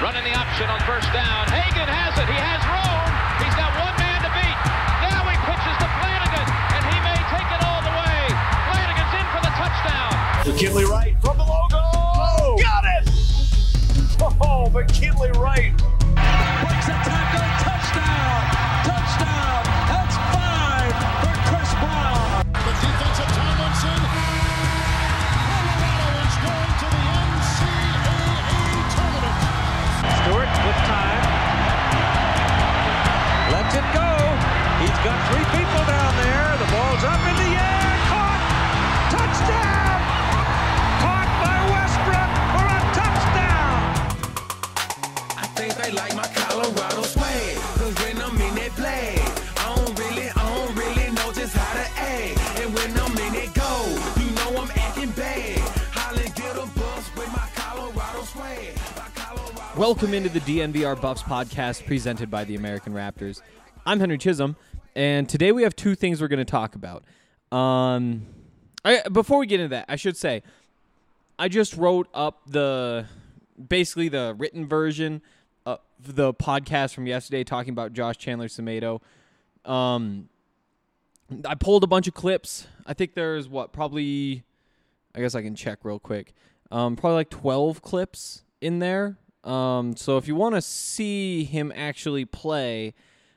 Running the option on first down. Hagan has it. He has room. He's got one man to beat. Now he pitches to Flanagan, and he may take it all the way. Flanagan's in for the touchdown. McKinley Wright from the logo. Oh, got it! Oh, McKinley Wright. Breaks a tackle. Touchdown. Touchdown. That's 5 for Chris Brown. The defensive Tomlinson. Colorado is going to the NCAA tournament. Stewart with time. Lets it go. He's got 3 people down there. The ball's up in the air. Caught. Touchdown. Caught by Westbrook for a touchdown. I think they like my Colorado swag. Cause when I'm in that play, I don't really know just how to act. And when I'm in it go, you know I'm acting bad. Holly get a bus with my Colorado swag. Welcome into the DNVR Buffs podcast presented by the American Raptors. I'm Henry Chisholm, and today we have 2 things we're going to talk about. Before we get into that, I should say, I just wrote up basically the written version of the podcast from yesterday talking about Josh Chandler-Semedo. I pulled a bunch of clips. I think there's I guess I can check real quick. Probably like 12 clips in there. So if you want to see him actually play,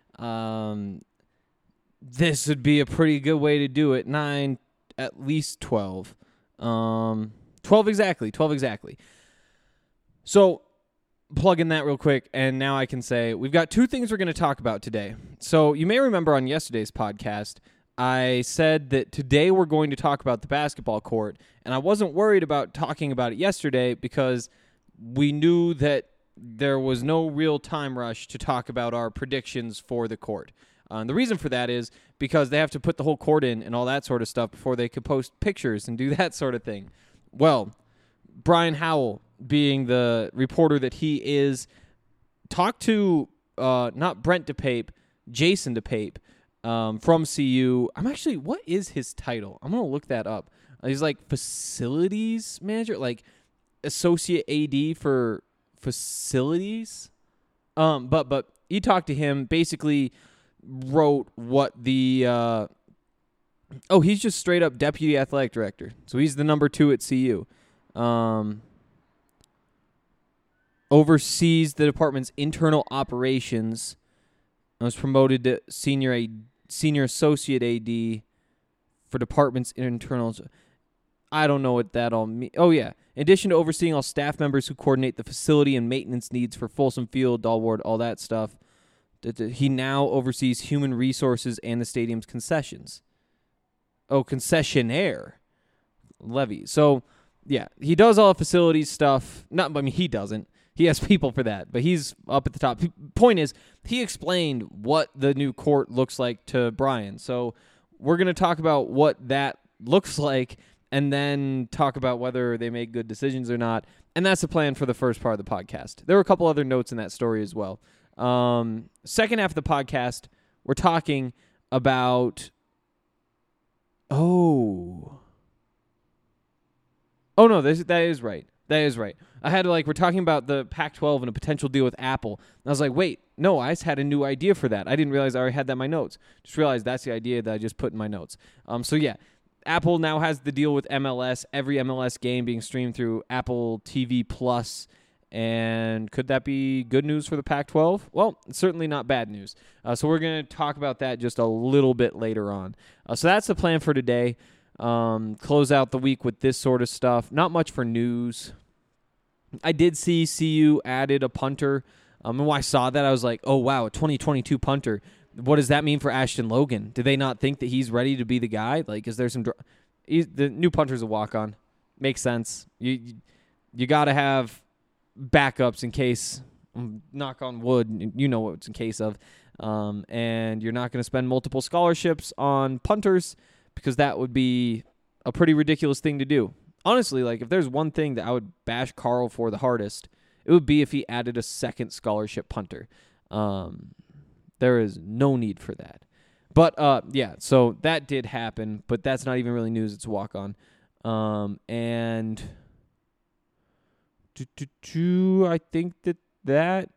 this would be a pretty good way to do it. 9, at least 12. 12 exactly. So plug in that real quick, and now I can say we've got 2 things we're going to talk about today. So you may remember on yesterday's podcast, I said that today we're going to talk about the basketball court, and I wasn't worried about talking about it yesterday because we knew that there was no real time rush to talk about our predictions for the court. The reason for that is because they have to put the whole court in and all that sort of stuff before they could post pictures and do that sort of thing. Well, Brian Howell, being the reporter that he is, talked to not Brent DePape, Jason DePape from CU. What is his title? I'm going to look that up. He's like facilities manager, like associate AD for facilities. But he talked to him, basically wrote what the he's just straight up deputy athletic director. So he's the number 2 at CU. Oversees the department's internal operations. I was promoted to senior associate AD for department's internal. I don't know what that all means. Oh, yeah. In addition to overseeing all staff members who coordinate the facility and maintenance needs for Folsom Field, Dahlward, all that stuff, he now oversees human resources and the stadium's concessions. Oh, concessionaire levy. So, yeah, he does all the facilities stuff. He doesn't. He has people for that, but he's up at the top. Point is, he explained what the new court looks like to Brian. So we're going to talk about what that looks like and then talk about whether they make good decisions or not. And that's the plan for the first part of the podcast. There were a couple other notes in that story as well. Second half of the podcast, we're talking about... Oh, no, that is right. That is right. I had we're talking about the Pac-12 and a potential deal with Apple. And I was like, wait, no, I just had a new idea for that. I didn't realize I already had that in my notes. Just realized that's the idea that I just put in my notes. So yeah, Apple now has the deal with MLS, every MLS game being streamed through Apple TV Plus. And could that be good news for the Pac-12? Well, it's certainly not bad news. So we're going to talk about that just a little bit later on. So that's the plan for today. Close out the week with this sort of stuff. Not much for news. I did see CU added a punter. And when I saw that, I was like, oh, wow, a 2022 punter. What does that mean for Ashton Logan? Do they not think that he's ready to be the guy? Is there some... the new punter's a walk-on. Makes sense. You got to have backups in case, knock on wood, you know what it's in case of. And you're not going to spend multiple scholarships on punters because that would be a pretty ridiculous thing to do. Honestly, if there's one thing that I would bash Carl for the hardest, it would be if he added a second scholarship punter. There is no need for that. But, yeah, so that did happen, but that's not even really news. It's a walk-on. And I think that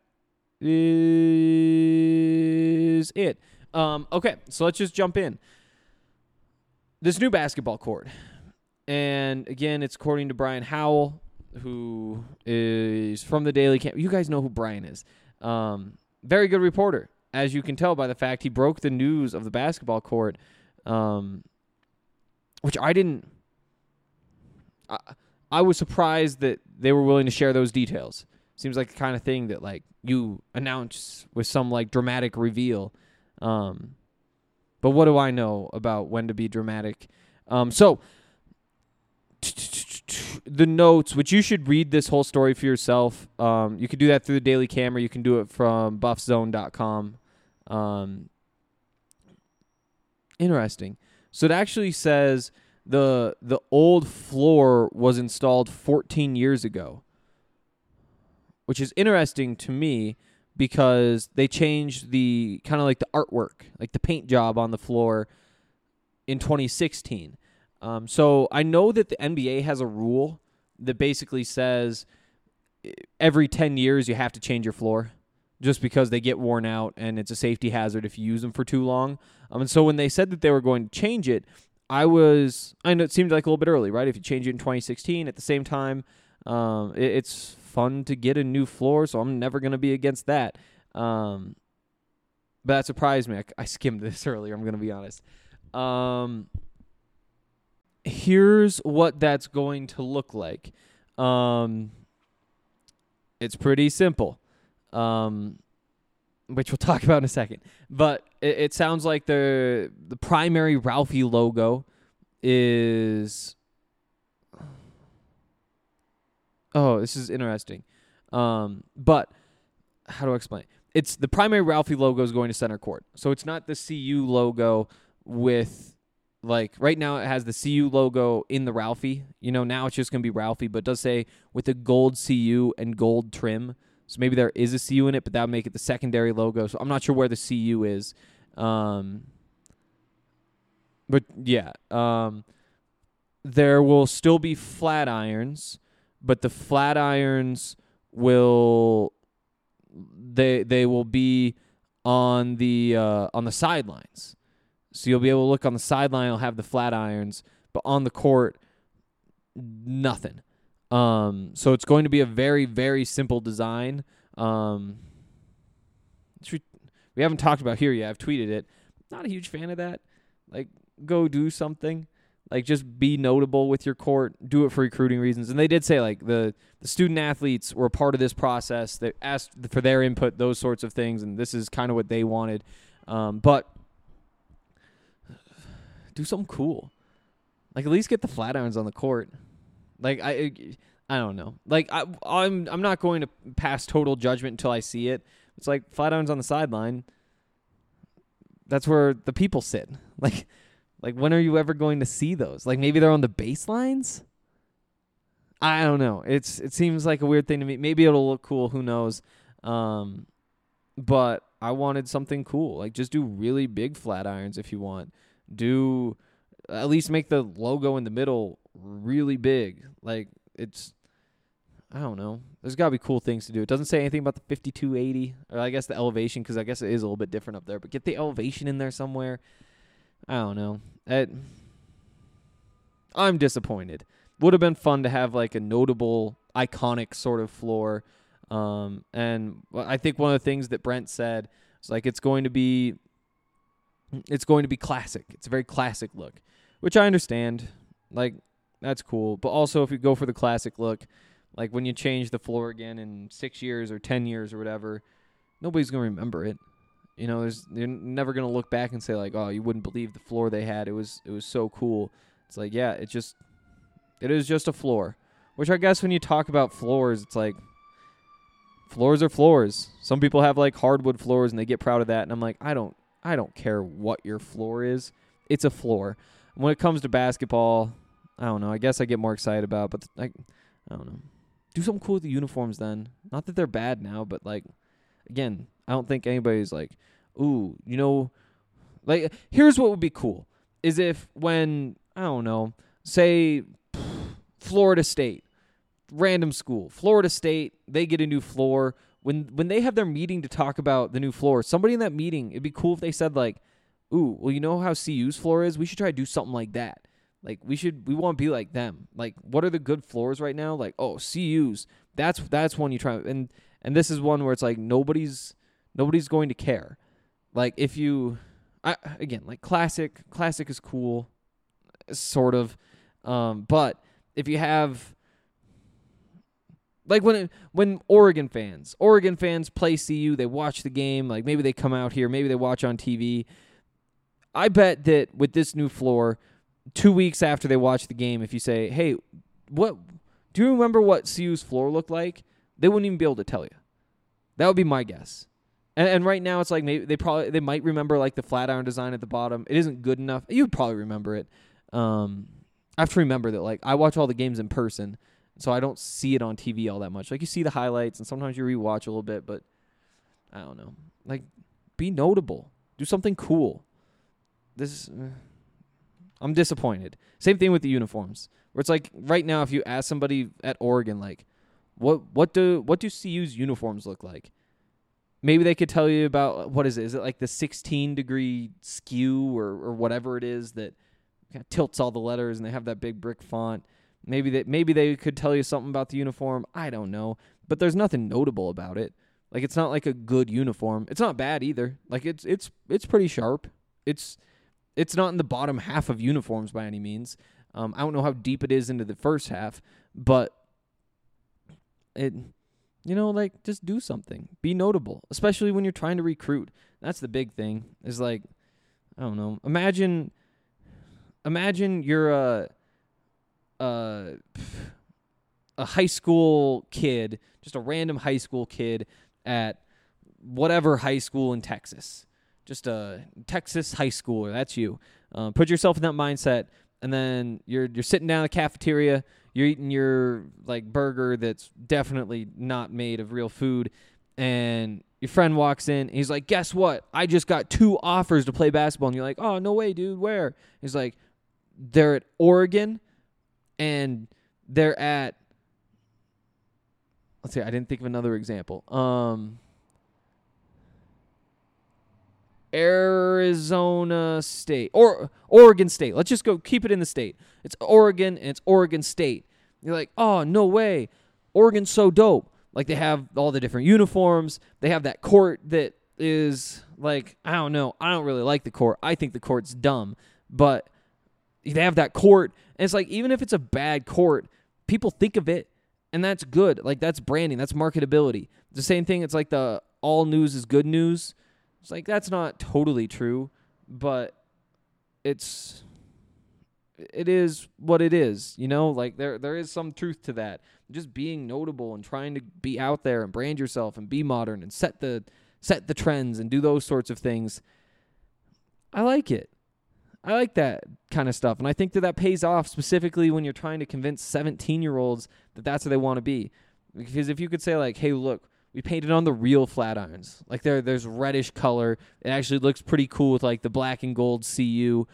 is it. Okay, so let's just jump in. This new basketball court. And again, it's according to Brian Howell, who is from the Daily Camp. You guys know who Brian is. Very good reporter, as you can tell by the fact he broke the news of the basketball court, which I didn't. I was surprised that they were willing to share those details. Seems like the kind of thing that like you announce with some like dramatic reveal. But what do I know about when to be dramatic? So the notes, which you should read this whole story for yourself. You can do that through the Daily Camera. You can do it from buffzone.com. Interesting. So it actually says the old floor was installed 14 years ago, which is interesting to me because they changed the kind of like the artwork, like the paint job on the floor in 2016. So I know that the NBA has a rule that basically says every 10 years you have to change your floor just because they get worn out and it's a safety hazard if you use them for too long. And so when they said that they were going to change it, I know it seemed like a little bit early, right? If you change it in 2016 at the same time, it's fun to get a new floor, so I'm never going to be against that. But that surprised me. I skimmed this earlier, I'm going to be honest. Here's what that's going to look like. It's pretty simple, which we'll talk about in a second. But it sounds like the primary Ralphie logo is... Oh, this is interesting. But how do I explain? It's the primary Ralphie logo is going to center court. So it's not the CU logo with, like, right now it has the CU logo in the Ralphie. You know, now it's just going to be Ralphie, but it does say with the gold CU and gold trim. So maybe there is a CU in it, but that would make it the secondary logo. So I'm not sure where the CU is. But yeah, there will still be flat irons, but the flat irons will they will be on the sidelines. So you'll be able to look on the sideline, it'll have the flat irons, but on the court, nothing. So it's going to be a very, very simple design. We haven't talked about here yet. I've tweeted it. Not a huge fan of that. Like, go do something. Like, just be notable with your court. Do it for recruiting reasons. And they did say, like, the student athletes were a part of this process. They asked for their input, those sorts of things, and this is kind of what they wanted. But do something cool. Like, at least get the flat irons on the court. Like, I don't know. Like, I'm not going to pass total judgment until I see it. It's like flat irons on the sideline. That's where the people sit. Like when are you ever going to see those? Like, maybe they're on the baselines? I don't know. It seems like a weird thing to me. Maybe it'll look cool. Who knows? But I wanted something cool. Like, just do really big flat irons if you want. Do at least make the logo in the middle really big. Like, I don't know. There's got to be cool things to do. It doesn't say anything about the 5280, or I guess the elevation, because I guess it is a little bit different up there. But get the elevation in there somewhere. I don't know. I'm disappointed. Would have been fun to have like a notable, iconic sort of floor. And I think one of the things that Brent said was like it's going to be classic. It's a very classic look, which I understand. Like, that's cool. But also, if you go for the classic look, like when you change the floor again in 6 years or 10 years or whatever, nobody's going to remember it. You know, you're never going to look back and say, like, oh, you wouldn't believe the floor they had. It was so cool. It's like, yeah, it is just a floor. Which I guess when you talk about floors, it's like, floors are floors. Some people have, like, hardwood floors, and they get proud of that. And I'm like, I don't care what your floor is. It's a floor. When it comes to basketball, I don't know. I guess I get more excited about it, but I don't know. Do something cool with the uniforms then. Not that they're bad now, but, like, again, I don't think anybody's like, ooh, you know, like, here's what would be cool is if when, I don't know, say Florida State random school, Florida State, they get a new floor. When they have their meeting to talk about the new floor, somebody in that meeting, it'd be cool if they said like, ooh, well, you know how CU's floor is? We should try to do something like that. Like we want to be like them. Like what are the good floors right now? Like, oh, CU's. That's one you try, and this is one where it's like nobody's going to care. Like if you again, like classic is cool, sort of. But if you have like when Oregon fans play CU, they watch the game, like maybe they come out here, maybe they watch on TV. I bet that with this new floor, 2 weeks after they watch the game, if you say, hey, what do you remember what CU's floor looked like? They wouldn't even be able to tell you. That would be my guess. And right now it's like maybe they might remember like the flat iron design at the bottom. It isn't good enough. You'd probably remember it. I have to remember that like I watch all the games in person, so I don't see it on TV all that much. Like you see the highlights and sometimes you rewatch a little bit, but I don't know. Like be notable. Do something cool. I'm disappointed. Same thing with the uniforms. Where it's like right now if you ask somebody at Oregon like what do CU's uniforms look like? Maybe they could tell you about, what is it? Is it like the 16-degree skew or whatever it is that kind of tilts all the letters and they have that big brick font? Maybe they could tell you something about the uniform. I don't know. But there's nothing notable about it. Like it's not like a good uniform. It's not bad either. Like it's pretty sharp. It's not in the bottom half of uniforms by any means. I don't know how deep it is into the first half, but like just do something. Be notable, especially when you're trying to recruit. That's the big thing. Is like, I don't know. Imagine you're a high school kid, just a random high school kid at whatever high school in Texas. Just a Texas high schooler. That's you. Put yourself in that mindset, and then you're sitting down in the cafeteria. You're eating your like burger that's definitely not made of real food, and your friend walks in. And he's like, "Guess what? I just got 2 offers to play basketball." And you're like, "Oh, no way, dude. Where?" He's like, "They're at Oregon, and they're at." Let's see. I didn't think of another example. Arizona State or Oregon State. Let's just go keep it in the state. It's Oregon and it's Oregon State. You're like, oh, no way. Oregon's so dope. Like they have all the different uniforms. They have that court that is like, I don't know. I don't really like the court. I think the court's dumb. But they have that court. And it's like, even if it's a bad court, people think of it. And that's good. Like that's branding. That's marketability. The same thing. It's like the all news is good news. It's like that's not totally true, but it is what it is, you know? Like there is some truth to that. Just being notable and trying to be out there and brand yourself and be modern and set the trends and do those sorts of things. I like it. I like that kind of stuff, and I think that pays off specifically when you're trying to convince 17-year-olds that that's what they want to be. Because if you could say like, "Hey, look, we painted on the real flat irons. Like there's reddish color. It actually looks pretty cool with like the black and gold CU.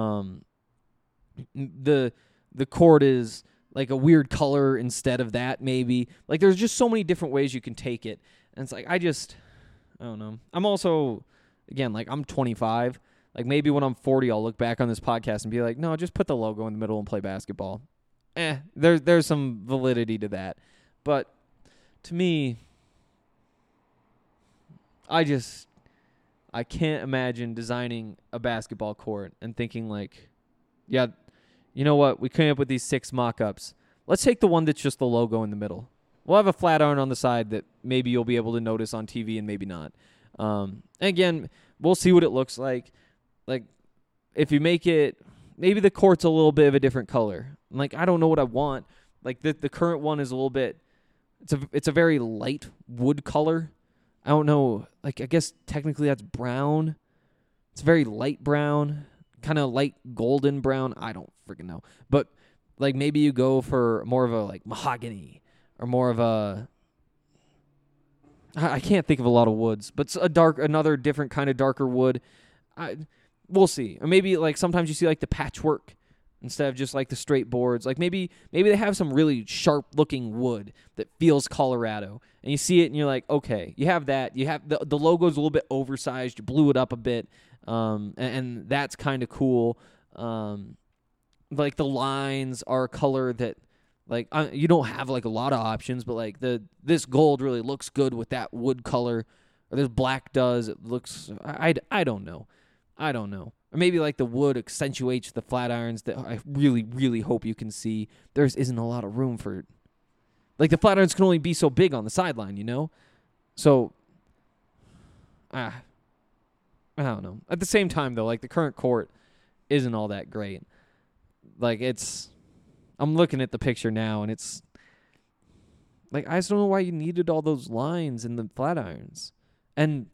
The court is like a weird color instead of that maybe. Like there's just so many different ways you can take it. And it's like I don't know. I'm also again like I'm 25. Like maybe when I'm 40 I'll look back on this podcast and be like, "No, just put the logo in the middle and play basketball." There's some validity to that. But to me, I can't imagine designing a basketball court and thinking like, yeah, you know what? We came up with these 6 mock-ups. Let's take the one that's just the logo in the middle. We'll have a flat iron on the side that maybe you'll be able to notice on TV and maybe not. And again, we'll see what it looks like. Like, if you make it, maybe the court's a little bit of a different color. Like, I don't know what I want. Like, the current one is a little bit, it's a very light wood color. I don't know. Like, I guess technically that's brown. It's very light brown, kind of light golden brown. I don't freaking know. But, like, maybe you go for more of a, like, mahogany or more of a, I can't think of a lot of woods, but another different kind of darker wood. We'll see. Or maybe, like, sometimes you see, like, the patchwork instead of just like the straight boards. Like maybe they have some really sharp looking wood that feels Colorado, and you see it and you're like, okay, you have that. You have the logo's a little bit oversized. You blew it up a bit, and that's kind of cool. Like the lines are a color that like you don't have like a lot of options, but like this gold really looks good with that wood color, or this black does. It looks I don't know. Or maybe like the wood accentuates the flat irons that I really, really hope you can see. There isn't a lot of room for it. Like the flat irons can only be so big on the sideline, you know? So, I don't know. At the same time, though, like the current court isn't all that great. Like I'm looking at the picture now, and it's like, I just don't know why you needed all those lines in the flat irons. And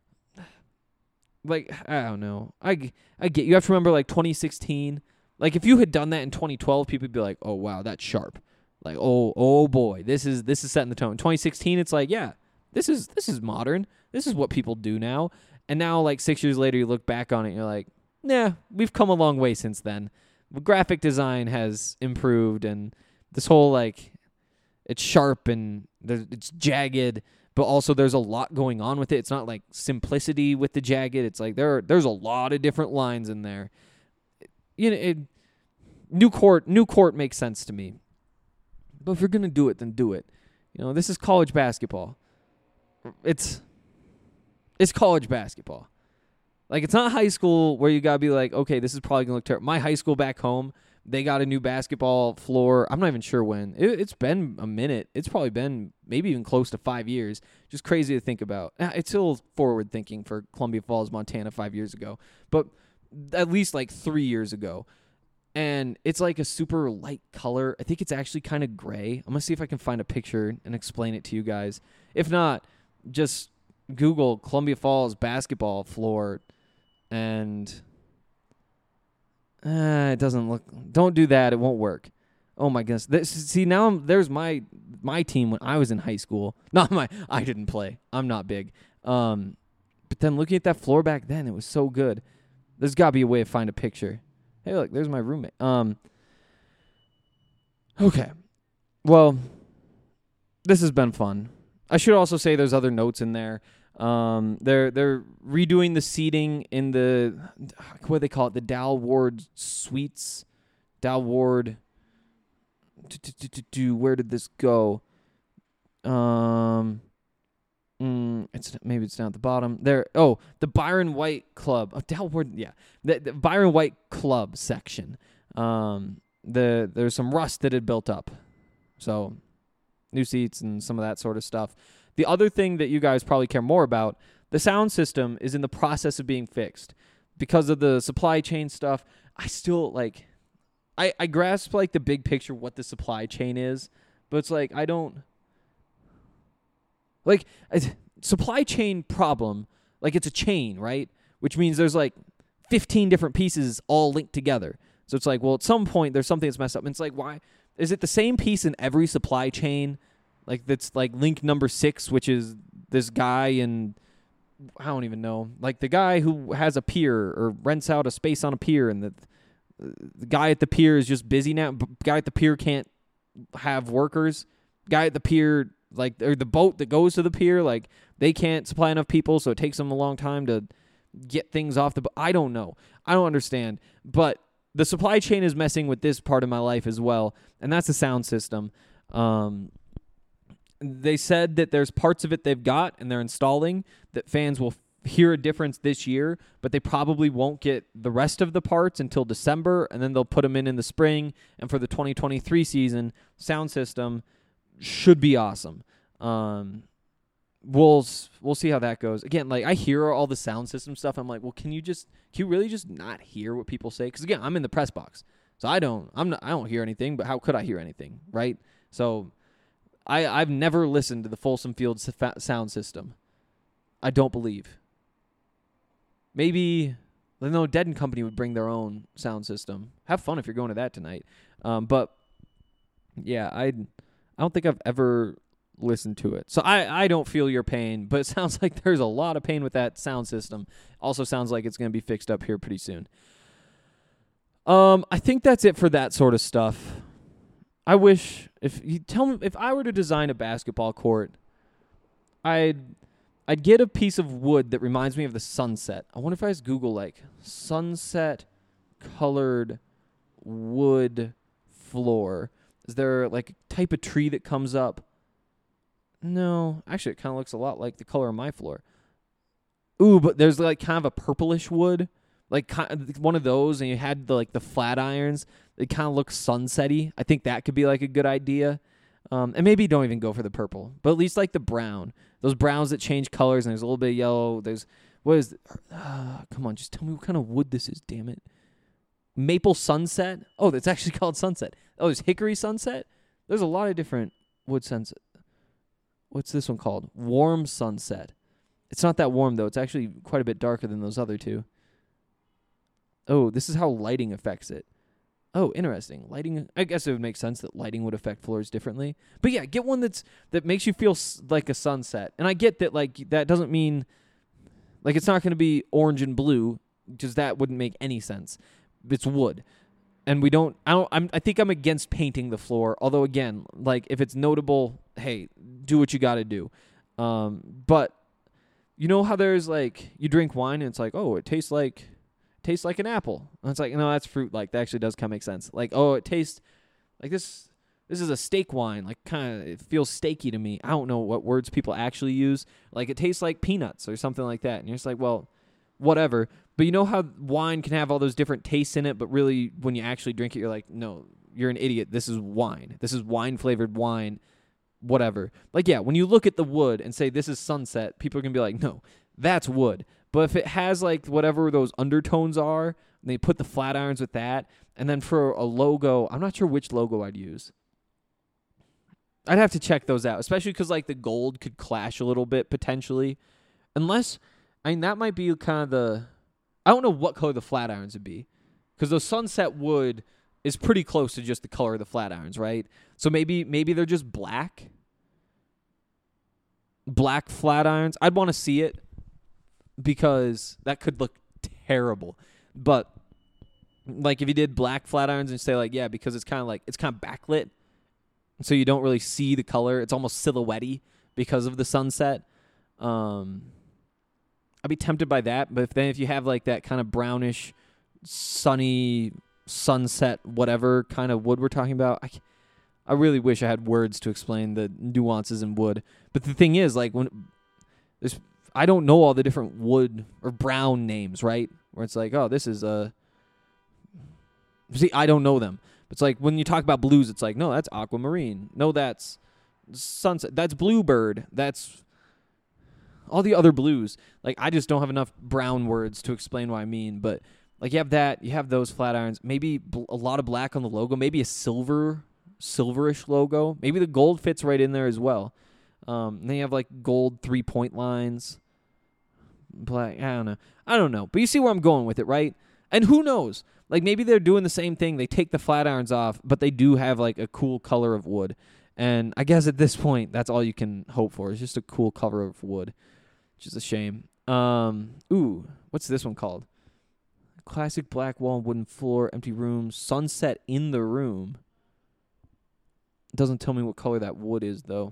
like, I don't know. I get you have to remember like 2016. Like if you had done that in 2012, people would be like, "Oh wow, that's sharp." Like, "Oh boy, this is setting the tone." In 2016, it's like, "Yeah, this is modern. This is what people do now." And now like 6 years later, you look back on it and you're like, "Nah, we've come a long way since then. The graphic design has improved, and this whole like it's sharp and it's jagged." But also there's a lot going on with it. It's not like simplicity with the jagged. It's like there's a lot of different lines in there. You know, new court makes sense to me. But if you're going to do it, then do it. You know, this is college basketball. It's college basketball. Like, it's not high school where you got to be like, okay, this is probably going to look terrible. My high school back home, they got a new basketball floor. I'm not even sure when. It's been a minute. It's probably been maybe even close to 5 years. Just crazy to think about. It's still forward thinking for Columbia Falls, Montana 5 years ago. But at least like 3 years ago. And it's like a super light color. I think it's actually kind of gray. I'm going to see if I can find a picture and explain it to you guys. If not, just Google Columbia Falls basketball floor and... it doesn't look... Don't do that. It won't work. Oh, my goodness. There's my team when I was in high school. I didn't play. I'm not big. But then looking at that floor back then, it was so good. There's got to be a way to find a picture. Hey, look. There's my roommate. Okay. Well, this has been fun. I should also say there's other notes in there. They're redoing the seating in the, what do they call it? The Dal Ward Suites. Dal Ward. Where did this go? Maybe it's down at the bottom. There. Oh, the Byron White Club. Oh, Dal Ward. Yeah, the Byron White Club section. There's some rust that had built up, so new seats and some of that sort of stuff. The other thing that you guys probably care more about, the sound system is in the process of being fixed. Because of the supply chain stuff, I still, like, I grasp, like, the big picture what the supply chain is, but it's like, I don't, like, supply chain problem, like, it's a chain, right? Which means there's, like, 15 different pieces all linked together. So it's like, well, at some point, there's something that's messed up. And it's like, why? Is it the same piece in every supply chain? Like, that's like link number 6, which is this guy in, I don't even know, like the guy who has a pier or rents out a space on a pier, and the guy at the pier is just busy now. Guy at the pier can't have workers. Guy at the pier, like, or the boat that goes to the pier, like, they can't supply enough people, so it takes them a long time to get things off the boat. I don't know. I don't understand. But the supply chain is messing with this part of my life as well, and that's the sound system. They said that there's parts of it they've got and they're installing that fans will hear a difference this year, but they probably won't get the rest of the parts until December, and then they'll put them in the spring. And for the 2023 season, sound system should be awesome. We'll see how that goes. Again, like, I hear all the sound system stuff. I'm like, well, can you really just not hear what people say? Because again, I'm in the press box, so I don't hear anything. But how could I hear anything, right? So I've never listened to the Folsom Field sound system. I don't believe. Maybe, no, Dead and Company would bring their own sound system. Have fun if you're going to that tonight. But yeah, I don't think I've ever listened to it. So I don't feel your pain, but it sounds like there's a lot of pain with that sound system. Also sounds like it's going to be fixed up here pretty soon. I think that's it for that sort of stuff. I wish if I were to design a basketball court, I'd get a piece of wood that reminds me of the sunset. I wonder if I just Google like sunset colored wood floor. Is there like a type of tree that comes up? No, actually it kind of looks a lot like the color of my floor. Ooh, but there's like kind of a purplish wood, like one of those, and you had the flat irons. They kind of look sunsetty. I think that could be like a good idea. And maybe don't even go for the purple, but at least like the brown. Those browns that change colors, and there's a little bit of yellow. Come on, just tell me what kind of wood this is, damn it. Maple sunset? Oh, that's actually called sunset. Oh, there's hickory sunset? There's a lot of different wood sunset. What's this one called? Warm sunset. It's not that warm, though. It's actually quite a bit darker than those other two. Oh, this is how lighting affects it. Oh, interesting. Lighting. I guess it would make sense that lighting would affect floors differently. But yeah, get one that makes you feel like a sunset. And I get that that doesn't mean it's not going to be orange and blue, because that wouldn't make any sense. It's wood. And I think I'm against painting the floor. Although again, if it's notable, hey, do what you got to do. But you know how there's you drink wine and it's oh, it tastes like an apple. And it's no, that's fruit. That actually does kind of make sense. Oh, it tastes like this. This is a steak wine. It feels steaky to me. I don't know what words people actually use. It tastes like peanuts or something like that. And you're just well, whatever. But you know how wine can have all those different tastes in it, but really when you actually drink it, you're no, you're an idiot. This is wine. This is wine-flavored wine, whatever. Yeah, when you look at the wood and say this is sunset, people are going to be no, that's wood. But if it has whatever those undertones are, and they put the flat irons with that, and then for a logo, I'm not sure which logo I'd use. I'd have to check those out, especially because the gold could clash a little bit potentially. Unless, that might be kind of the... I don't know what color the flat irons would be, because the sunset wood is pretty close to just the color of the flat irons, right? So maybe they're just black. Black flat irons. I'd want to see it, because that could look terrible. But if you did black flat irons and say yeah, because it's kind of backlit, so you don't really see the color. It's almost silhouette-y because of the sunset. I'd be tempted by that, but if you have that kind of brownish, sunny, sunset, whatever kind of wood we're talking about, I really wish I had words to explain the nuances in wood. But the thing is, I don't know all the different wood or brown names, right? Where it's oh, this is a... See, I don't know them. It's when you talk about blues, it's no, that's aquamarine. No, that's sunset. That's bluebird. That's... all the other blues. I just don't have enough brown words to explain what I mean. But you have that, you have those flat irons. Maybe a lot of black on the logo. Maybe a silverish logo. Maybe the gold fits right in there as well. And then you have gold 3-point lines. Black. I don't know. But you see where I'm going with it, right? And who knows? Maybe they're doing the same thing. They take the flat irons off, but they do have a cool color of wood. And I guess at this point, that's all you can hope for. It's just a cool color of wood. Which is a shame. Ooh, what's this one called? Classic black wall, wooden floor, empty room, sunset in the room. It doesn't tell me what color that wood is, though.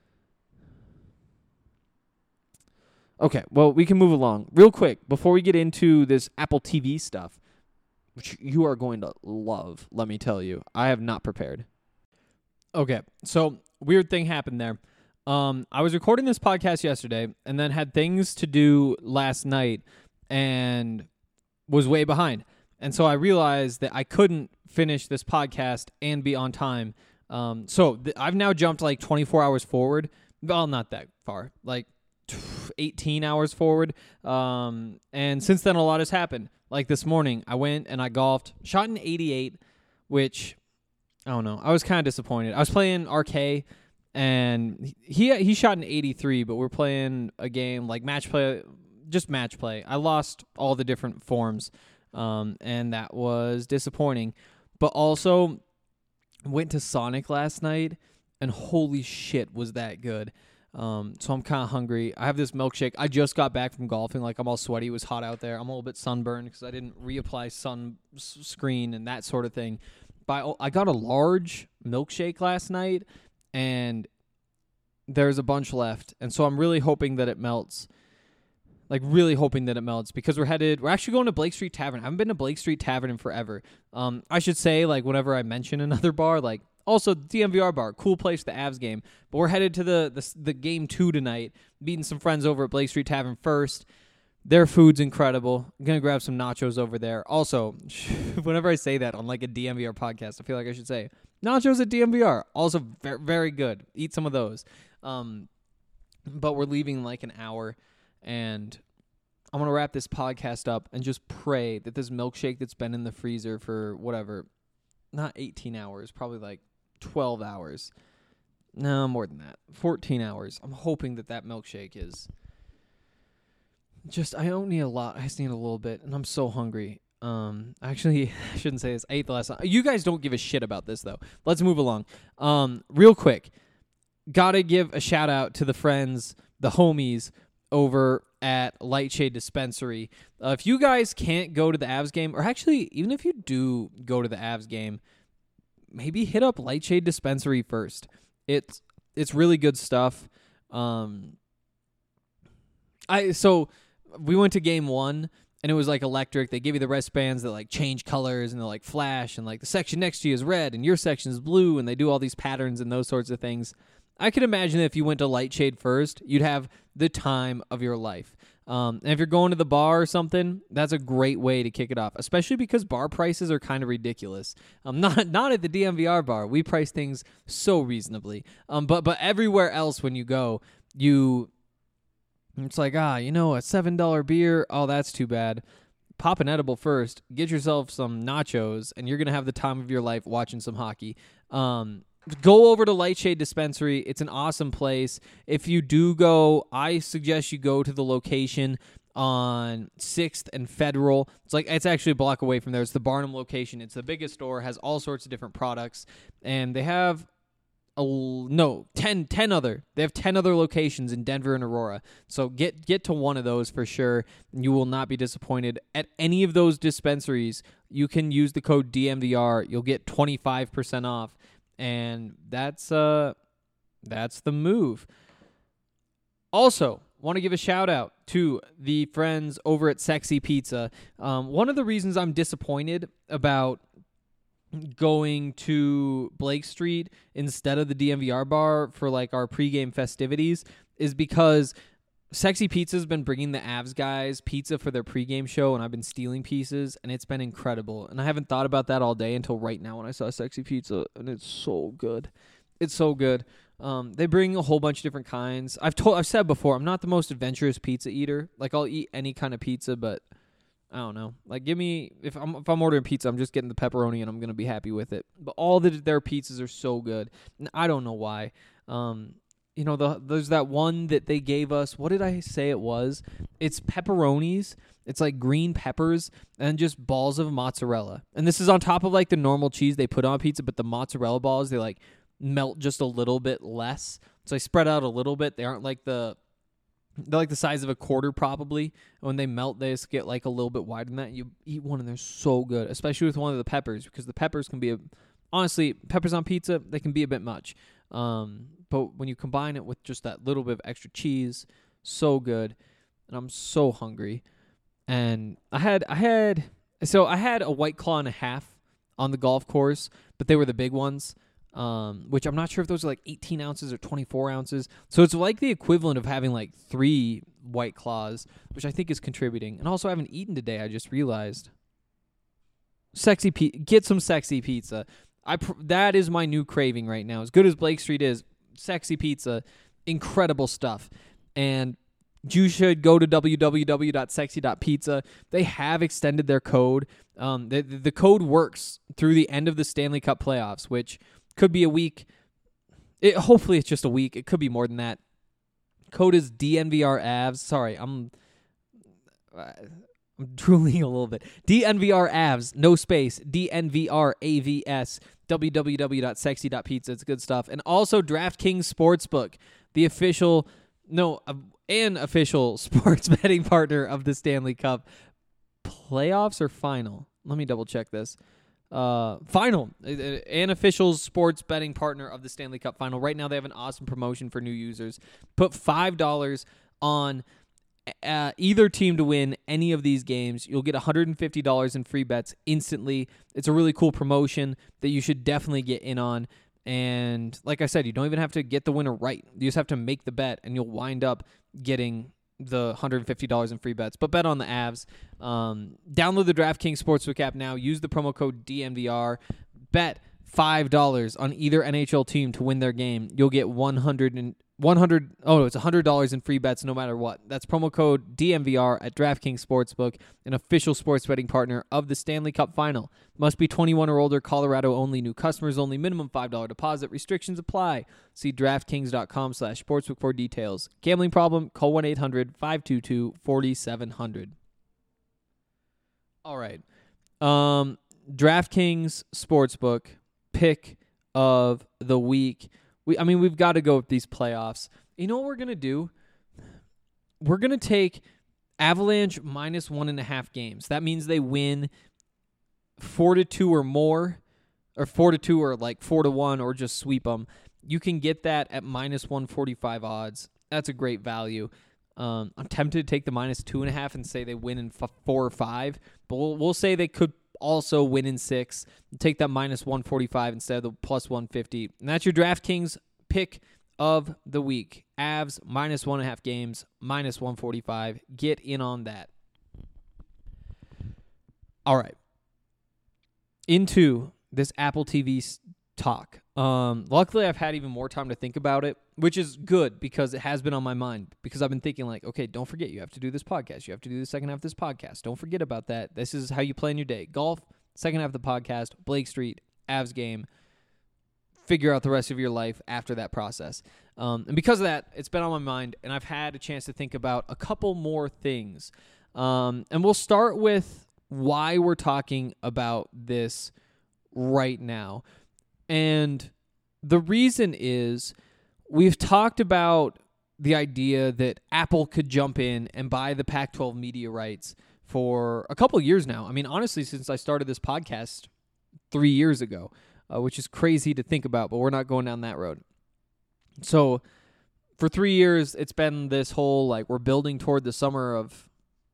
Okay, well, we can move along. Real quick, before we get into this Apple TV stuff, which you are going to love, let me tell you. I have not prepared. Okay, so weird thing happened there. I was recording this podcast yesterday and then had things to do last night and was way behind. And so I realized that I couldn't finish this podcast and be on time. So I've now jumped 24 hours forward. Well, not that far, 18 hours forward. And since then, a lot has happened. This morning, I went and I golfed, shot an 88, which, I don't know. I was kind of disappointed. I was playing RK. And he shot an 83, but we're playing a game match play, just match play. I lost all the different forms, and that was disappointing. But also, went to Sonic last night, and holy shit, was that good. So I'm kind of hungry. I have this milkshake. I just got back from golfing. Like, I'm all sweaty. It was hot out there. I'm a little bit sunburned because I didn't reapply sunscreen and that sort of thing. But I got a large milkshake last night, and there's a bunch left. And so I'm really hoping that it melts. Like, really hoping that it melts, because we're actually going to Blake Street Tavern. I haven't been to Blake Street Tavern in forever. I should say, like, whenever I mention another bar, like, also DMVR bar, cool place, the Avs game. But we're headed to the game 2 tonight, meeting some friends over at Blake Street Tavern first. Their food's incredible. I'm going to grab some nachos over there. Also, whenever I say that on, like, a DMVR podcast, I feel like I should say, nachos at DMVR, also very, very good. Eat some of those. But we're leaving in, like, an hour. And I'm going to wrap this podcast up and just pray that this milkshake that's been in the freezer for whatever, not 18 hours, probably like 12 hours. No, more than that. 14 hours. I'm hoping that milkshake is just, I don't need a lot. I just need a little bit, and I'm so hungry. Actually, I shouldn't say this. I ate the last one. You guys don't give a shit about this, though. Let's move along. Real quick, gotta give a shout out to the friends, the homies, over at Lightshade Dispensary. If you guys can't go to the Avs game, or actually, even if you do go to the Avs game, maybe hit up Lightshade Dispensary first. It's really good stuff. So we went to game 1, and it was like electric. They give you the wristbands that like change colors and they like flash, and like the section next to you is red and your section is blue, and they do all these patterns and those sorts of things. I could imagine that if you went to Lightshade first, you'd have the time of your life. And if you're going to the bar or something, that's a great way to kick it off, especially because bar prices are kind of ridiculous. Not at the DMVR bar. We price things so reasonably. But everywhere else when you go, it's like, a $7 beer, oh, that's too bad. Pop an edible first, get yourself some nachos, and you're going to have the time of your life watching some hockey. Go over to Lightshade Dispensary. It's an awesome place. If you do go, I suggest you go to the location on 6th and Federal. It's actually a block away from there. It's the Barnum location. It's the biggest store, has all sorts of different products, and they have 10 other. They have 10 other locations in Denver and Aurora. So get to one of those for sure, and you will not be disappointed. At any of those dispensaries, you can use the code DMVR. You'll get 25% off. And that's the move. Also, want to give a shout out to the friends over at Sexy Pizza. One of the reasons I'm disappointed about going to Blake Street instead of the DMVR bar for like our pregame festivities is because Sexy Pizza's been bringing the Avs guys pizza for their pregame show, and I've been stealing pieces, and it's been incredible. And I haven't thought about that all day until right now when I saw Sexy Pizza, and it's so good. It's so good. They bring a whole bunch of different kinds. I've said before, I'm not the most adventurous pizza eater. Like, I'll eat any kind of pizza, but I don't know. Like, if I'm ordering pizza, I'm just getting the pepperoni, and I'm gonna be happy with it. But all their pizzas are so good, and I don't know why. There's that one that they gave us. What did I say it was? It's pepperonis. It's like green peppers and just balls of mozzarella. And this is on top of like the normal cheese they put on pizza, but the mozzarella balls, they like melt just a little bit less. So they spread out a little bit. They aren't like they're like the size of a quarter probably. When they melt, they just get like a little bit wider than that. You eat one and they're so good, especially with one of the peppers, because the peppers can be honestly, peppers on pizza, they can be a bit much. But when you combine it with just that little bit of extra cheese, so good. And I'm so hungry. And I had a White Claw and a half on the golf course, but they were the big ones, which I'm not sure if those are like 18 ounces or 24 ounces. So it's like the equivalent of having like 3 White Claws, which I think is contributing. And also I haven't eaten today, I just realized. Get some Sexy Pizza. That is my new craving right now. As good as Blake Street is, Sexy Pizza, incredible stuff. And you should go to www.sexy.pizza. They have extended their code. The code works through the end of the Stanley Cup playoffs, which could be a week. Hopefully it's just a week. It could be more than that. Code is DNVRAVS. Sorry, I'm drooling a little bit. DNVRAVS, no space, DNVRAVS. www.sexy.pizza. It's good stuff. And also DraftKings Sportsbook, the official sports betting partner of the Stanley Cup. Playoffs or final? Let me double check this. Final. An official sports betting partner of the Stanley Cup final. Right now they have an awesome promotion for new users. Put $5 on either team to win any of these games. You'll get $150 in free bets instantly. It's a really cool promotion that you should definitely get in on. And like I said, you don't even have to get the winner right. You just have to make the bet, and you'll wind up getting the $150 in free bets. But bet on the Avs. Download the DraftKings Sportsbook app now. Use the promo code DMVR. Bet $5 on either NHL team to win their game. You'll get $100 in free bets no matter what. That's promo code DMVR at DraftKings Sportsbook, an official sports betting partner of the Stanley Cup Final. Must be 21 or older, Colorado only, new customers only, minimum $5 deposit. Restrictions apply. See DraftKings.com/sportsbook for details. Gambling problem? Call 1-800-522-4700. All right. DraftKings Sportsbook pick of the week. We've got to go with these playoffs. You know what we're going to do? We're going to take Avalanche minus 1.5 games. That means they win 4-2 or more, or 4-2 or like 4-1, or just sweep them. You can get that at minus 145 odds. That's a great value. I'm tempted to take the minus 2.5 and say they win in 4 or 5, but we'll say they could also win in 6. Take that minus 145 instead of the plus 150. And that's your DraftKings pick of the week. Avs minus 1.5 games, minus 145. Get in on that. All right. Into this Apple TV talk. Luckily, I've had even more time to think about it, which is good because it has been on my mind. Because I've been thinking like, okay, don't forget, you have to do this podcast. You have to do the second half of this podcast. Don't forget about that. This is how you plan your day. Golf, second half of the podcast, Blake Street, Avs game. Figure out the rest of your life after that process. And because of that, it's been on my mind, and I've had a chance to think about a couple more things. And we'll start with why we're talking about this right now. And the reason is we've talked about the idea that Apple could jump in and buy the Pac-12 media rights for a couple years now. I mean, honestly, since I started this podcast 3 years ago, which is crazy to think about, but we're not going down that road. So for 3 years, it's been this whole, like, we're building toward the summer of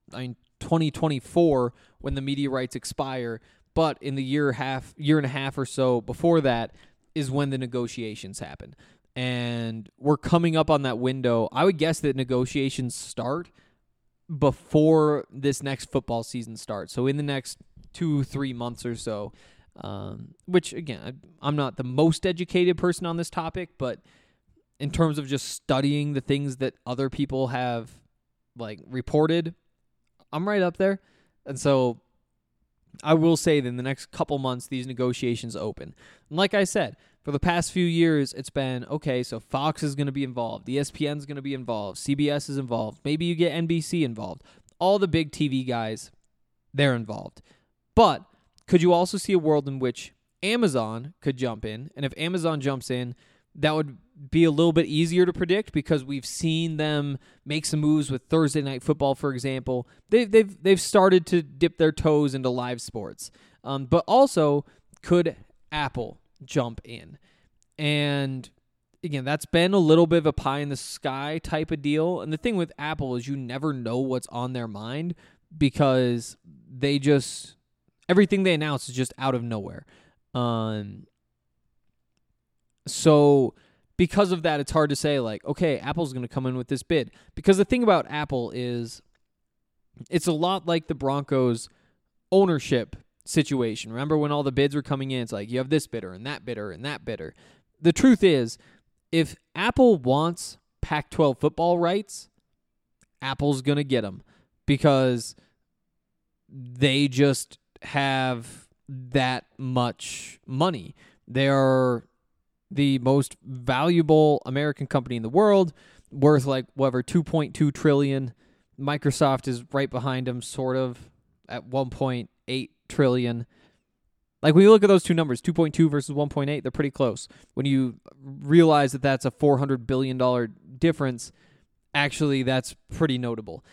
2024 when the media rights expire. But in the year and a half or so before that is when the negotiations happen. And we're coming up on that window. I would guess that negotiations start before this next football season starts. So in the next 2-3 months or so, which, again, I'm not the most educated person on this topic, but in terms of just studying the things that other people have, like, reported, I'm right up there. And so I will say that in the next couple months, these negotiations open. And like I said, for the past few years, it's been, okay, so Fox is going to be involved. ESPN is going to be involved. CBS is involved. Maybe you get NBC involved. All the big TV guys, they're involved. But could you also see a world in which Amazon could jump in? And if Amazon jumps in, that would be a little bit easier to predict because we've seen them make some moves with Thursday Night Football, for example. They've started to dip their toes into live sports. But also, could Apple jump in? And again, that's been a little bit of a pie in the sky type of deal. And the thing with Apple is you never know what's on their mind because they just, everything they announce is just out of nowhere. So because of that, it's hard to say, like, okay, Apple's going to come in with this bid. Because the thing about Apple is it's a lot like the Broncos ownership situation. Remember when all the bids were coming in, it's like you have this bidder and that bidder and that bidder. The truth is, if Apple wants Pac-12 football rights, Apple's going to get them because they just have that much money. They're the most valuable American company in the world, worth like whatever, $2.2 trillion. Microsoft is right behind them, sort of, at $1.8 trillion. Like, when you look at those two numbers, 2.2 versus 1.8, they're pretty close. When you realize that that's a $400 billion difference, actually, that's pretty notable.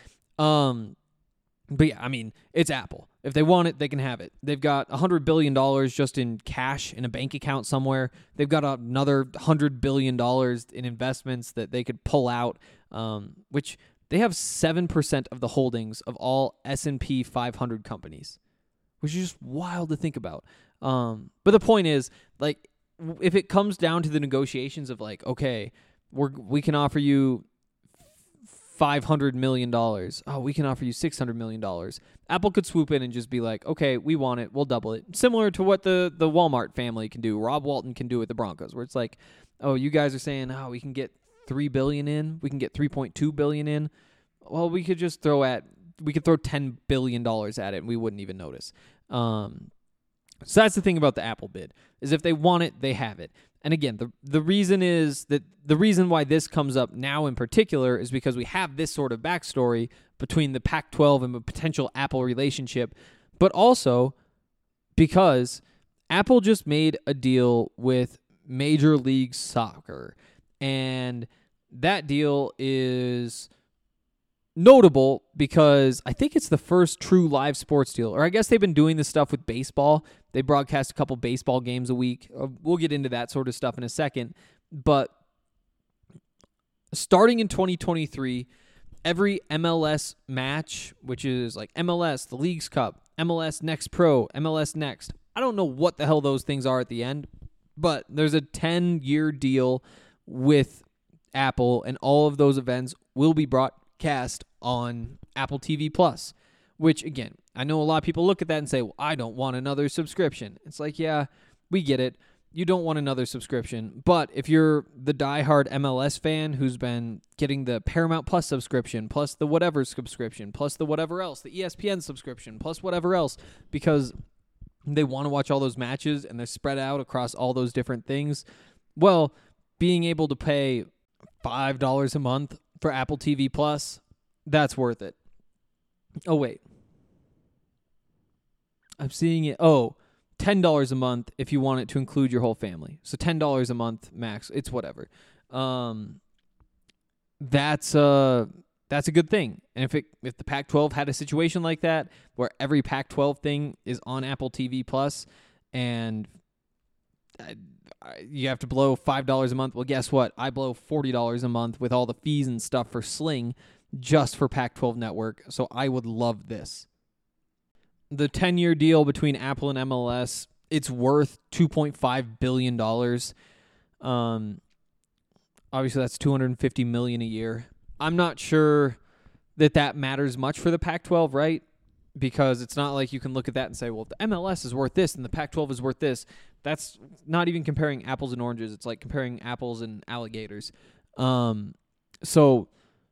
But yeah, I mean, it's Apple. If they want it, they can have it. They've got $100 billion just in cash in a bank account somewhere. They've got another $100 billion in investments that they could pull out, which they have 7% of the holdings of all S&P 500 companies, which is just wild to think about. But the point is, like, if it comes down to the negotiations of like, okay, we can offer you $500 million. Oh, we can offer you $600 million. Apple could swoop in and just be like, okay, we want it. We'll double it. Similar to what the Walmart family can do. Rob Walton can do with the Broncos, where it's like, oh, you guys are saying, oh, we can get $3 billion in. We can get $3.2 billion in. Well, we could throw $10 billion at it and we wouldn't even notice. So that's the thing about the Apple bid, is if they want it, they have it. And again, the reason is that the reason why this comes up now in particular is because we have this sort of backstory between the Pac-12 and a potential Apple relationship, but also because Apple just made a deal with Major League Soccer, and that deal is notable because I think it's the first true live sports deal, or I guess they've been doing this stuff with baseball. They broadcast a couple baseball games a week. We'll get into that sort of stuff in a second. But starting in 2023, every MLS match, which is like MLS, the Leagues Cup, MLS Next Pro, MLS Next, I don't know what the hell those things are at the end, but there's a 10-year deal with Apple, and all of those events will be broadcast on Apple TV Plus, which, again, I know a lot of people look at that and say, well, I don't want another subscription. It's like, yeah, we get it. You don't want another subscription. But if you're the diehard MLS fan who's been getting the Paramount Plus subscription, plus the whatever subscription, plus the whatever else, the ESPN subscription, plus whatever else, because they want to watch all those matches and they're spread out across all those different things, well, being able to pay $5 a month for Apple TV Plus, that's worth it. Oh, wait. I'm seeing it. Oh, $10 a month if you want it to include your whole family. So $10 a month max. It's whatever. That's a good thing. And if the Pac-12 had a situation like that, where every Pac-12 thing is on Apple TV Plus, and you have to blow $5 a month, well, guess what? I blow $40 a month with all the fees and stuff for Sling just for Pac-12 Network. So I would love this. The 10-year deal between Apple and MLS, it's worth $2.5 billion. Obviously, that's $250 million a year. I'm not sure that matters much for the Pac-12, right? Because it's not like you can look at that and say, well, the MLS is worth this and the Pac-12 is worth this. That's not even comparing apples and oranges. It's like comparing apples and alligators. So,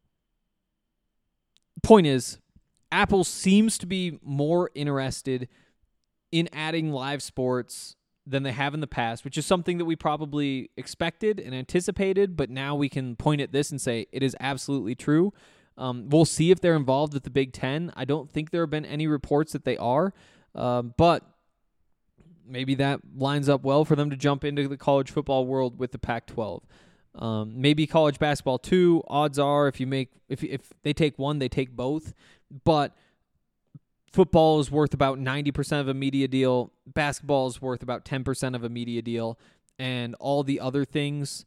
point is, Apple seems to be more interested in adding live sports than they have in the past, which is something that we probably expected and anticipated, but now we can point at this and say it is absolutely true. We'll see if they're involved with the Big Ten. I don't think there have been any reports that they are, but maybe that lines up well for them to jump into the college football world with the Pac-12. Maybe college basketball too. Odds are if they take one, they take both. But football is worth about 90% of a media deal. Basketball is worth about 10% of a media deal. And all the other things,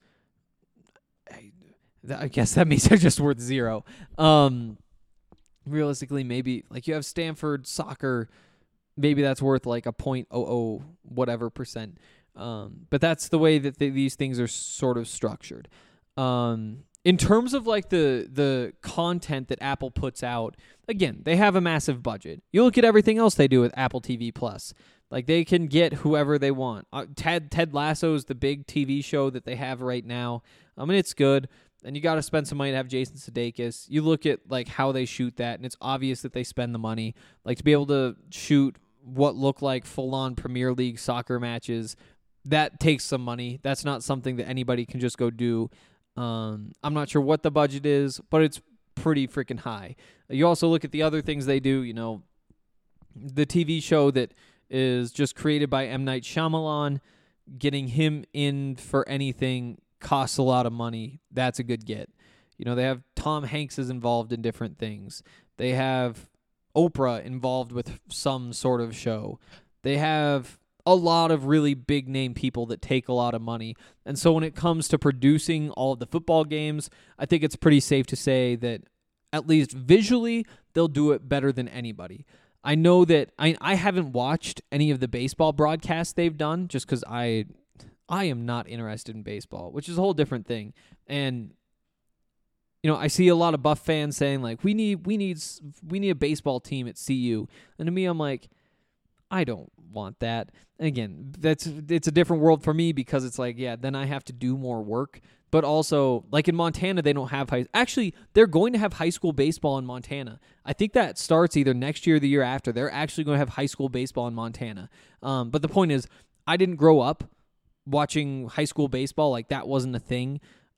I guess that means they're just worth zero. Realistically, maybe like you have Stanford soccer, maybe that's worth like a 0.00 whatever percent. But that's the way that these things are sort of structured. In terms of like the content that Apple puts out, again, they have a massive budget. You look at everything else they do with Apple TV Plus. Like, they can get whoever they want. Ted Lasso is the big TV show that they have right now. I mean, it's good. And you got to spend some money to have Jason Sudeikis. You look at like how they shoot that, and it's obvious that they spend the money. Like, to be able to shoot what look like full-on Premier League soccer matches, that takes some money. That's not something that anybody can just go do. I'm not sure what the budget is, but it's pretty freaking high. You also look at the other things they do, you know, the TV show that is just created by M. Night Shyamalan. Getting him in for anything costs a lot of money. That's a good get. You know, they have Tom Hanks is involved in different things. They have Oprah involved with some sort of show. They have a lot of really big name people that take a lot of money. And so when it comes to producing all of the football games, I think it's pretty safe to say that at least visually, they'll do it better than anybody. I know that I haven't watched any of the baseball broadcasts they've done just because I am not interested in baseball, which is a whole different thing. And you know, I see a lot of Buff fans saying like, we need a baseball team at CU, and to me, I'm like, I don't want that. And again, it's a different world for me because it's like, yeah, then I have to do more work. But also, like in Montana, they don't have actually, they're going to have high school baseball in Montana. I think that starts either next year or the year after. They're actually going to have high school baseball in Montana. But the point is, I didn't grow up watching high school baseball. Like, that wasn't a thing.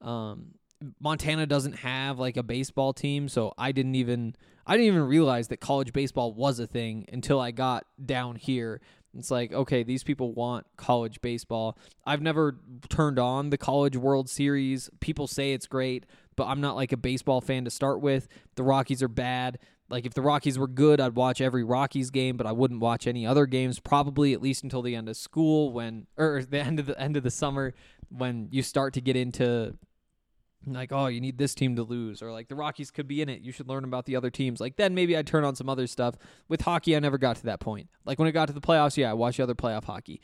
Montana doesn't have like a baseball team, so I didn't even realize that college baseball was a thing until I got down here. It's like, okay, these people want college baseball. I've never turned on the College World Series. People say it's great, but I'm not like a baseball fan to start with. The Rockies are bad. Like, if the Rockies were good, I'd watch every Rockies game, but I wouldn't watch any other games, probably at least until the end of school or the end of the summer, when you start to get into like, oh, you need this team to lose, or like the Rockies could be in it, you should learn about the other teams. Like, then maybe I'd turn on some other stuff. With hockey, I never got to that point. Like, when it got to the playoffs, yeah, I watched the other playoff hockey.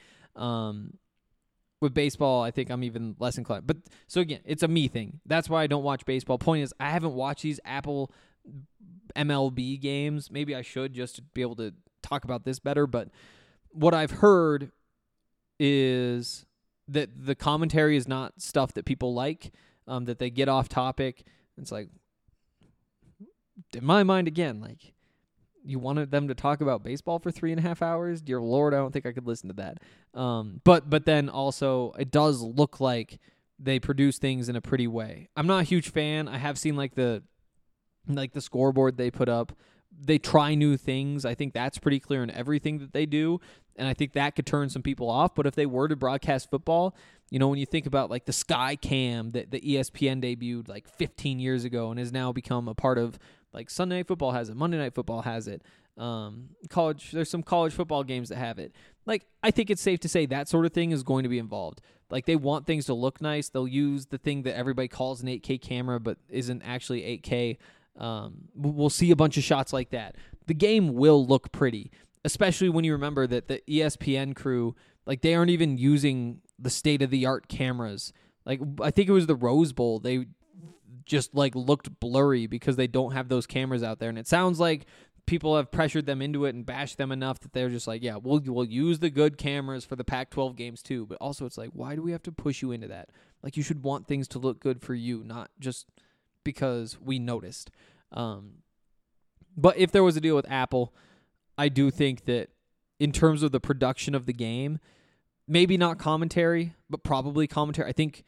With baseball, I think I'm even less inclined. But so again, it's a me thing. That's why I don't watch baseball. Point is, I haven't watched these Apple MLB games. Maybe I should, just to be able to talk about this better. But what I've heard is that the commentary is not stuff that people like. That they get off topic. It's like, in my mind, again, like, you wanted them to talk about baseball for 3.5 hours? Dear Lord, I don't think I could listen to that. But then also, it does look like they produce things in a pretty way. I'm not a huge fan. I have seen like the scoreboard they put up. They try new things. I think that's pretty clear in everything that they do. And I think that could turn some people off. But if they were to broadcast football, you know, when you think about like the Sky Cam that the ESPN debuted like 15 years ago and has now become a part of, like, Sunday Night Football has it, Monday Night Football has it, there's some college football games that have it. Like, I think it's safe to say that sort of thing is going to be involved. Like, they want things to look nice. They'll use the thing that everybody calls an 8K camera but isn't actually 8K. We'll see a bunch of shots like that. The game will look pretty, especially when you remember that the ESPN crew, like, they aren't even using the state-of-the-art cameras. Like, I think it was the Rose Bowl. They just, like, looked blurry because they don't have those cameras out there. And it sounds like people have pressured them into it and bashed them enough that they're just like, yeah, we'll use the good cameras for the Pac-12 games too. But also, it's like, why do we have to push you into that? Like, you should want things to look good for you, not just because we noticed. But if there was a deal with Apple, I do think that in terms of the production of the game, maybe not commentary, but probably commentary. I think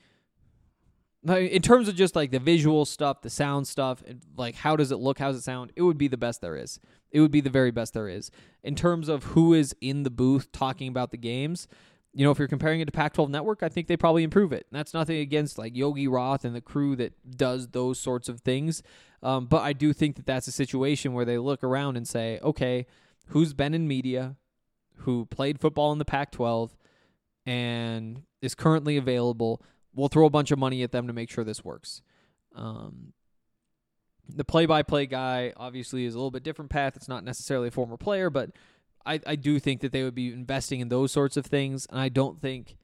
in terms of just like the visual stuff, the sound stuff, and like how does it look, how does it sound, it would be the best there is. It would be the very best there is. In terms of who is in the booth talking about the games, you know, if you're comparing it to Pac-12 Network, I think they probably improve it. And that's nothing against like Yogi Roth and the crew that does those sorts of things. But I do think that that's a situation where they look around and say, okay, who's been in media, who played football in the Pac-12, and is currently available? We'll throw a bunch of money at them to make sure this works. The play-by-play guy obviously is a little bit different path. It's not necessarily a former player, but I do think that they would be investing in those sorts of things, and I don't think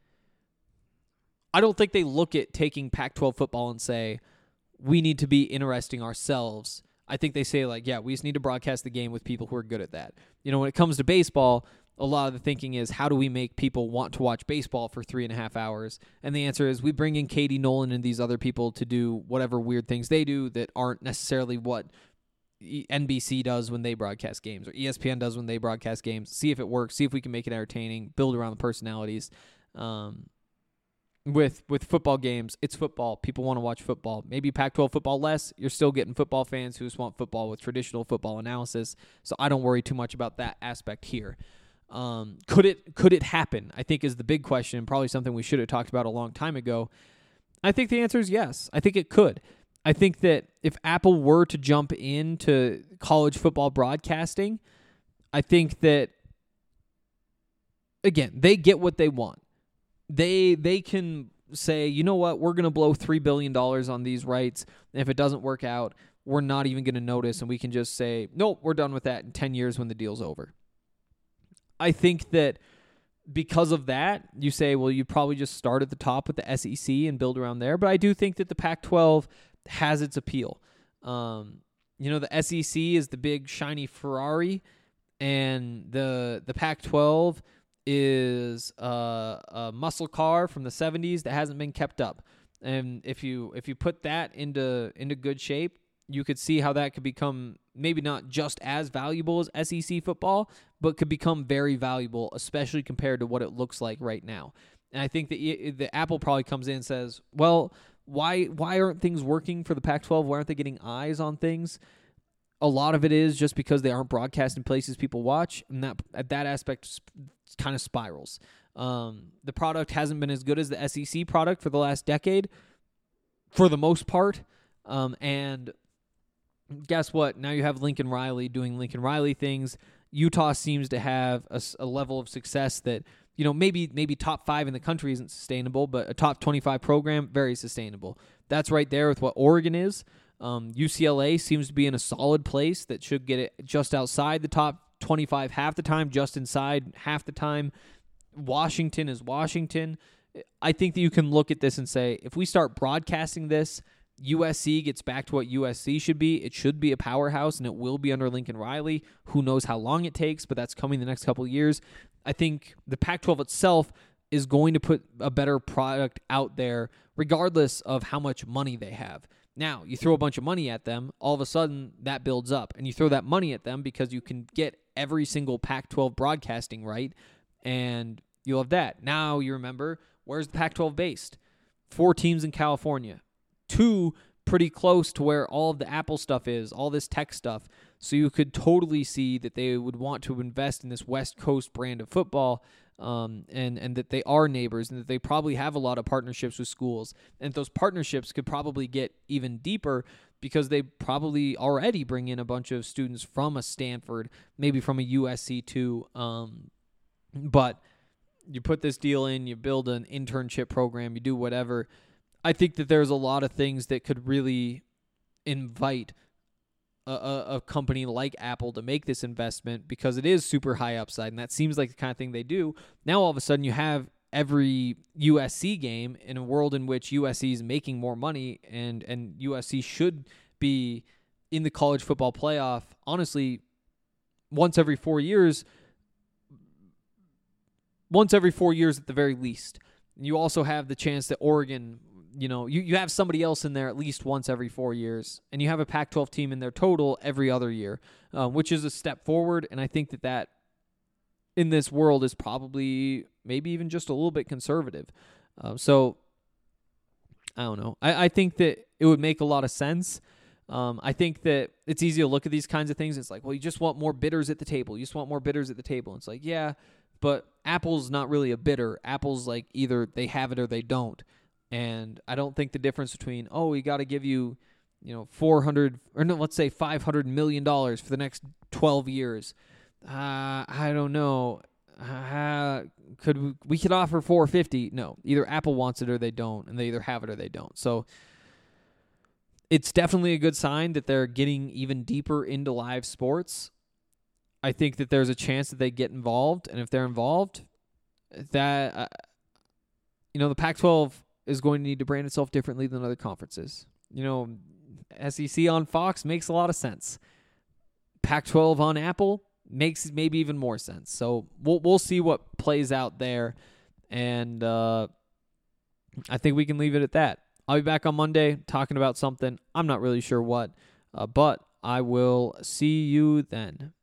they look at taking Pac-12 football and say, we need to be interesting ourselves. I think they say, like, yeah, we just need to broadcast the game with people who are good at that. You know, when it comes to baseball, a lot of the thinking is, how do we make people want to watch baseball for 3.5 hours? And the answer is, we bring in Katie Nolan and these other people to do whatever weird things they do that aren't necessarily what NBC does when they broadcast games, or ESPN does when they broadcast games. See if it works, see if we can make it entertaining, build around the personalities. With football games, it's football. People want to watch football. Maybe Pac-12 football less. You're still getting football fans who just want football with traditional football analysis. So I don't worry too much about that aspect here. Could it happen? I think is the big question, and probably something we should have talked about a long time ago. I think the answer is yes. I think it could. I think that if Apple were to jump into college football broadcasting, I think that, again, they get what they want. They can say, you know what, we're going to blow $3 billion on these rights. And if it doesn't work out, we're not even going to notice, and we can just say, nope, we're done with that in 10 years when the deal's over. I think that because of that, you say, well, you probably just start at the top with the SEC and build around there. But I do think that the Pac-12 has its appeal. The SEC is the big shiny Ferrari, and the Pac-12 is a muscle car from the 70s that hasn't been kept up. And if you put that into good shape, you could see how that could become maybe not just as valuable as SEC football, but could become very valuable, especially compared to what it looks like right now. And I think that the Apple probably comes in and says, well, why aren't things working for the Pac-12? Why aren't they getting eyes on things? A lot of it is just because they aren't broadcast in places people watch, and that aspect kind of spirals. The product hasn't been as good as the SEC product for the last decade, for the most part, and guess what? Now you have Lincoln Riley doing Lincoln Riley things. Utah seems to have a level of success that, maybe top 5 in the country isn't sustainable, but a top 25 program, very sustainable. That's right there with what Oregon is. UCLA seems to be in a solid place that should get it just outside the top 25 half the time, just inside half the time. Washington is Washington. I think that you can look at this and say, if we start broadcasting this, USC gets back to what USC should be. It should be a powerhouse, and it will be under Lincoln Riley. Who knows how long it takes, but that's coming the next couple of years. I think the Pac-12 itself is going to put a better product out there regardless of how much money they have. Now, you throw a bunch of money at them, all of a sudden that builds up, and you throw that money at them because you can get every single Pac-12 broadcasting right, and you'll have that. Now you remember, where's the Pac-12 based? 4 teams in California. 2 pretty close to where all of the Apple stuff is, all this tech stuff. So you could totally see that they would want to invest in this West Coast brand of football, and that they are neighbors, and that they probably have a lot of partnerships with schools. And those partnerships could probably get even deeper because they probably already bring in a bunch of students from a Stanford, maybe from a USC too. But you put this deal in, you build an internship program, you do whatever. I think that there's a lot of things that could really invite a company like Apple to make this investment because it is super high upside, and that seems like the kind of thing they do. Now all of a sudden you have every USC game in a world in which USC is making more money, and USC should be in the college football playoff, honestly, once every 4 years at the very least. You also have the chance that Oregon, you have somebody else in there at least once every 4 years, and you have a Pac-12 team in there total every other year, which is a step forward, and I think that in this world is probably maybe even just a little bit conservative. So, I don't know. I think that it would make a lot of sense. I think that it's easy to look at these kinds of things. It's like, well, you just want more bidders at the table. You just want more bidders at the table. It's like, yeah, but Apple's not really a bidder. Apple's like either they have it or they don't. And I don't think the difference between, we got to give you, let's say $500 million for the next 12 years. I don't know. We could offer 450? No, either Apple wants it or they don't, and they either have it or they don't. So it's definitely a good sign that they're getting even deeper into live sports. I think that there's a chance that they get involved, and if they're involved, that the Pac-12 is going to need to brand itself differently than other conferences. SEC on Fox makes a lot of sense. Pac-12 on Apple makes maybe even more sense. So we'll see what plays out there, and I think we can leave it at that. I'll be back on Monday talking about something. I'm not really sure what, but I will see you then.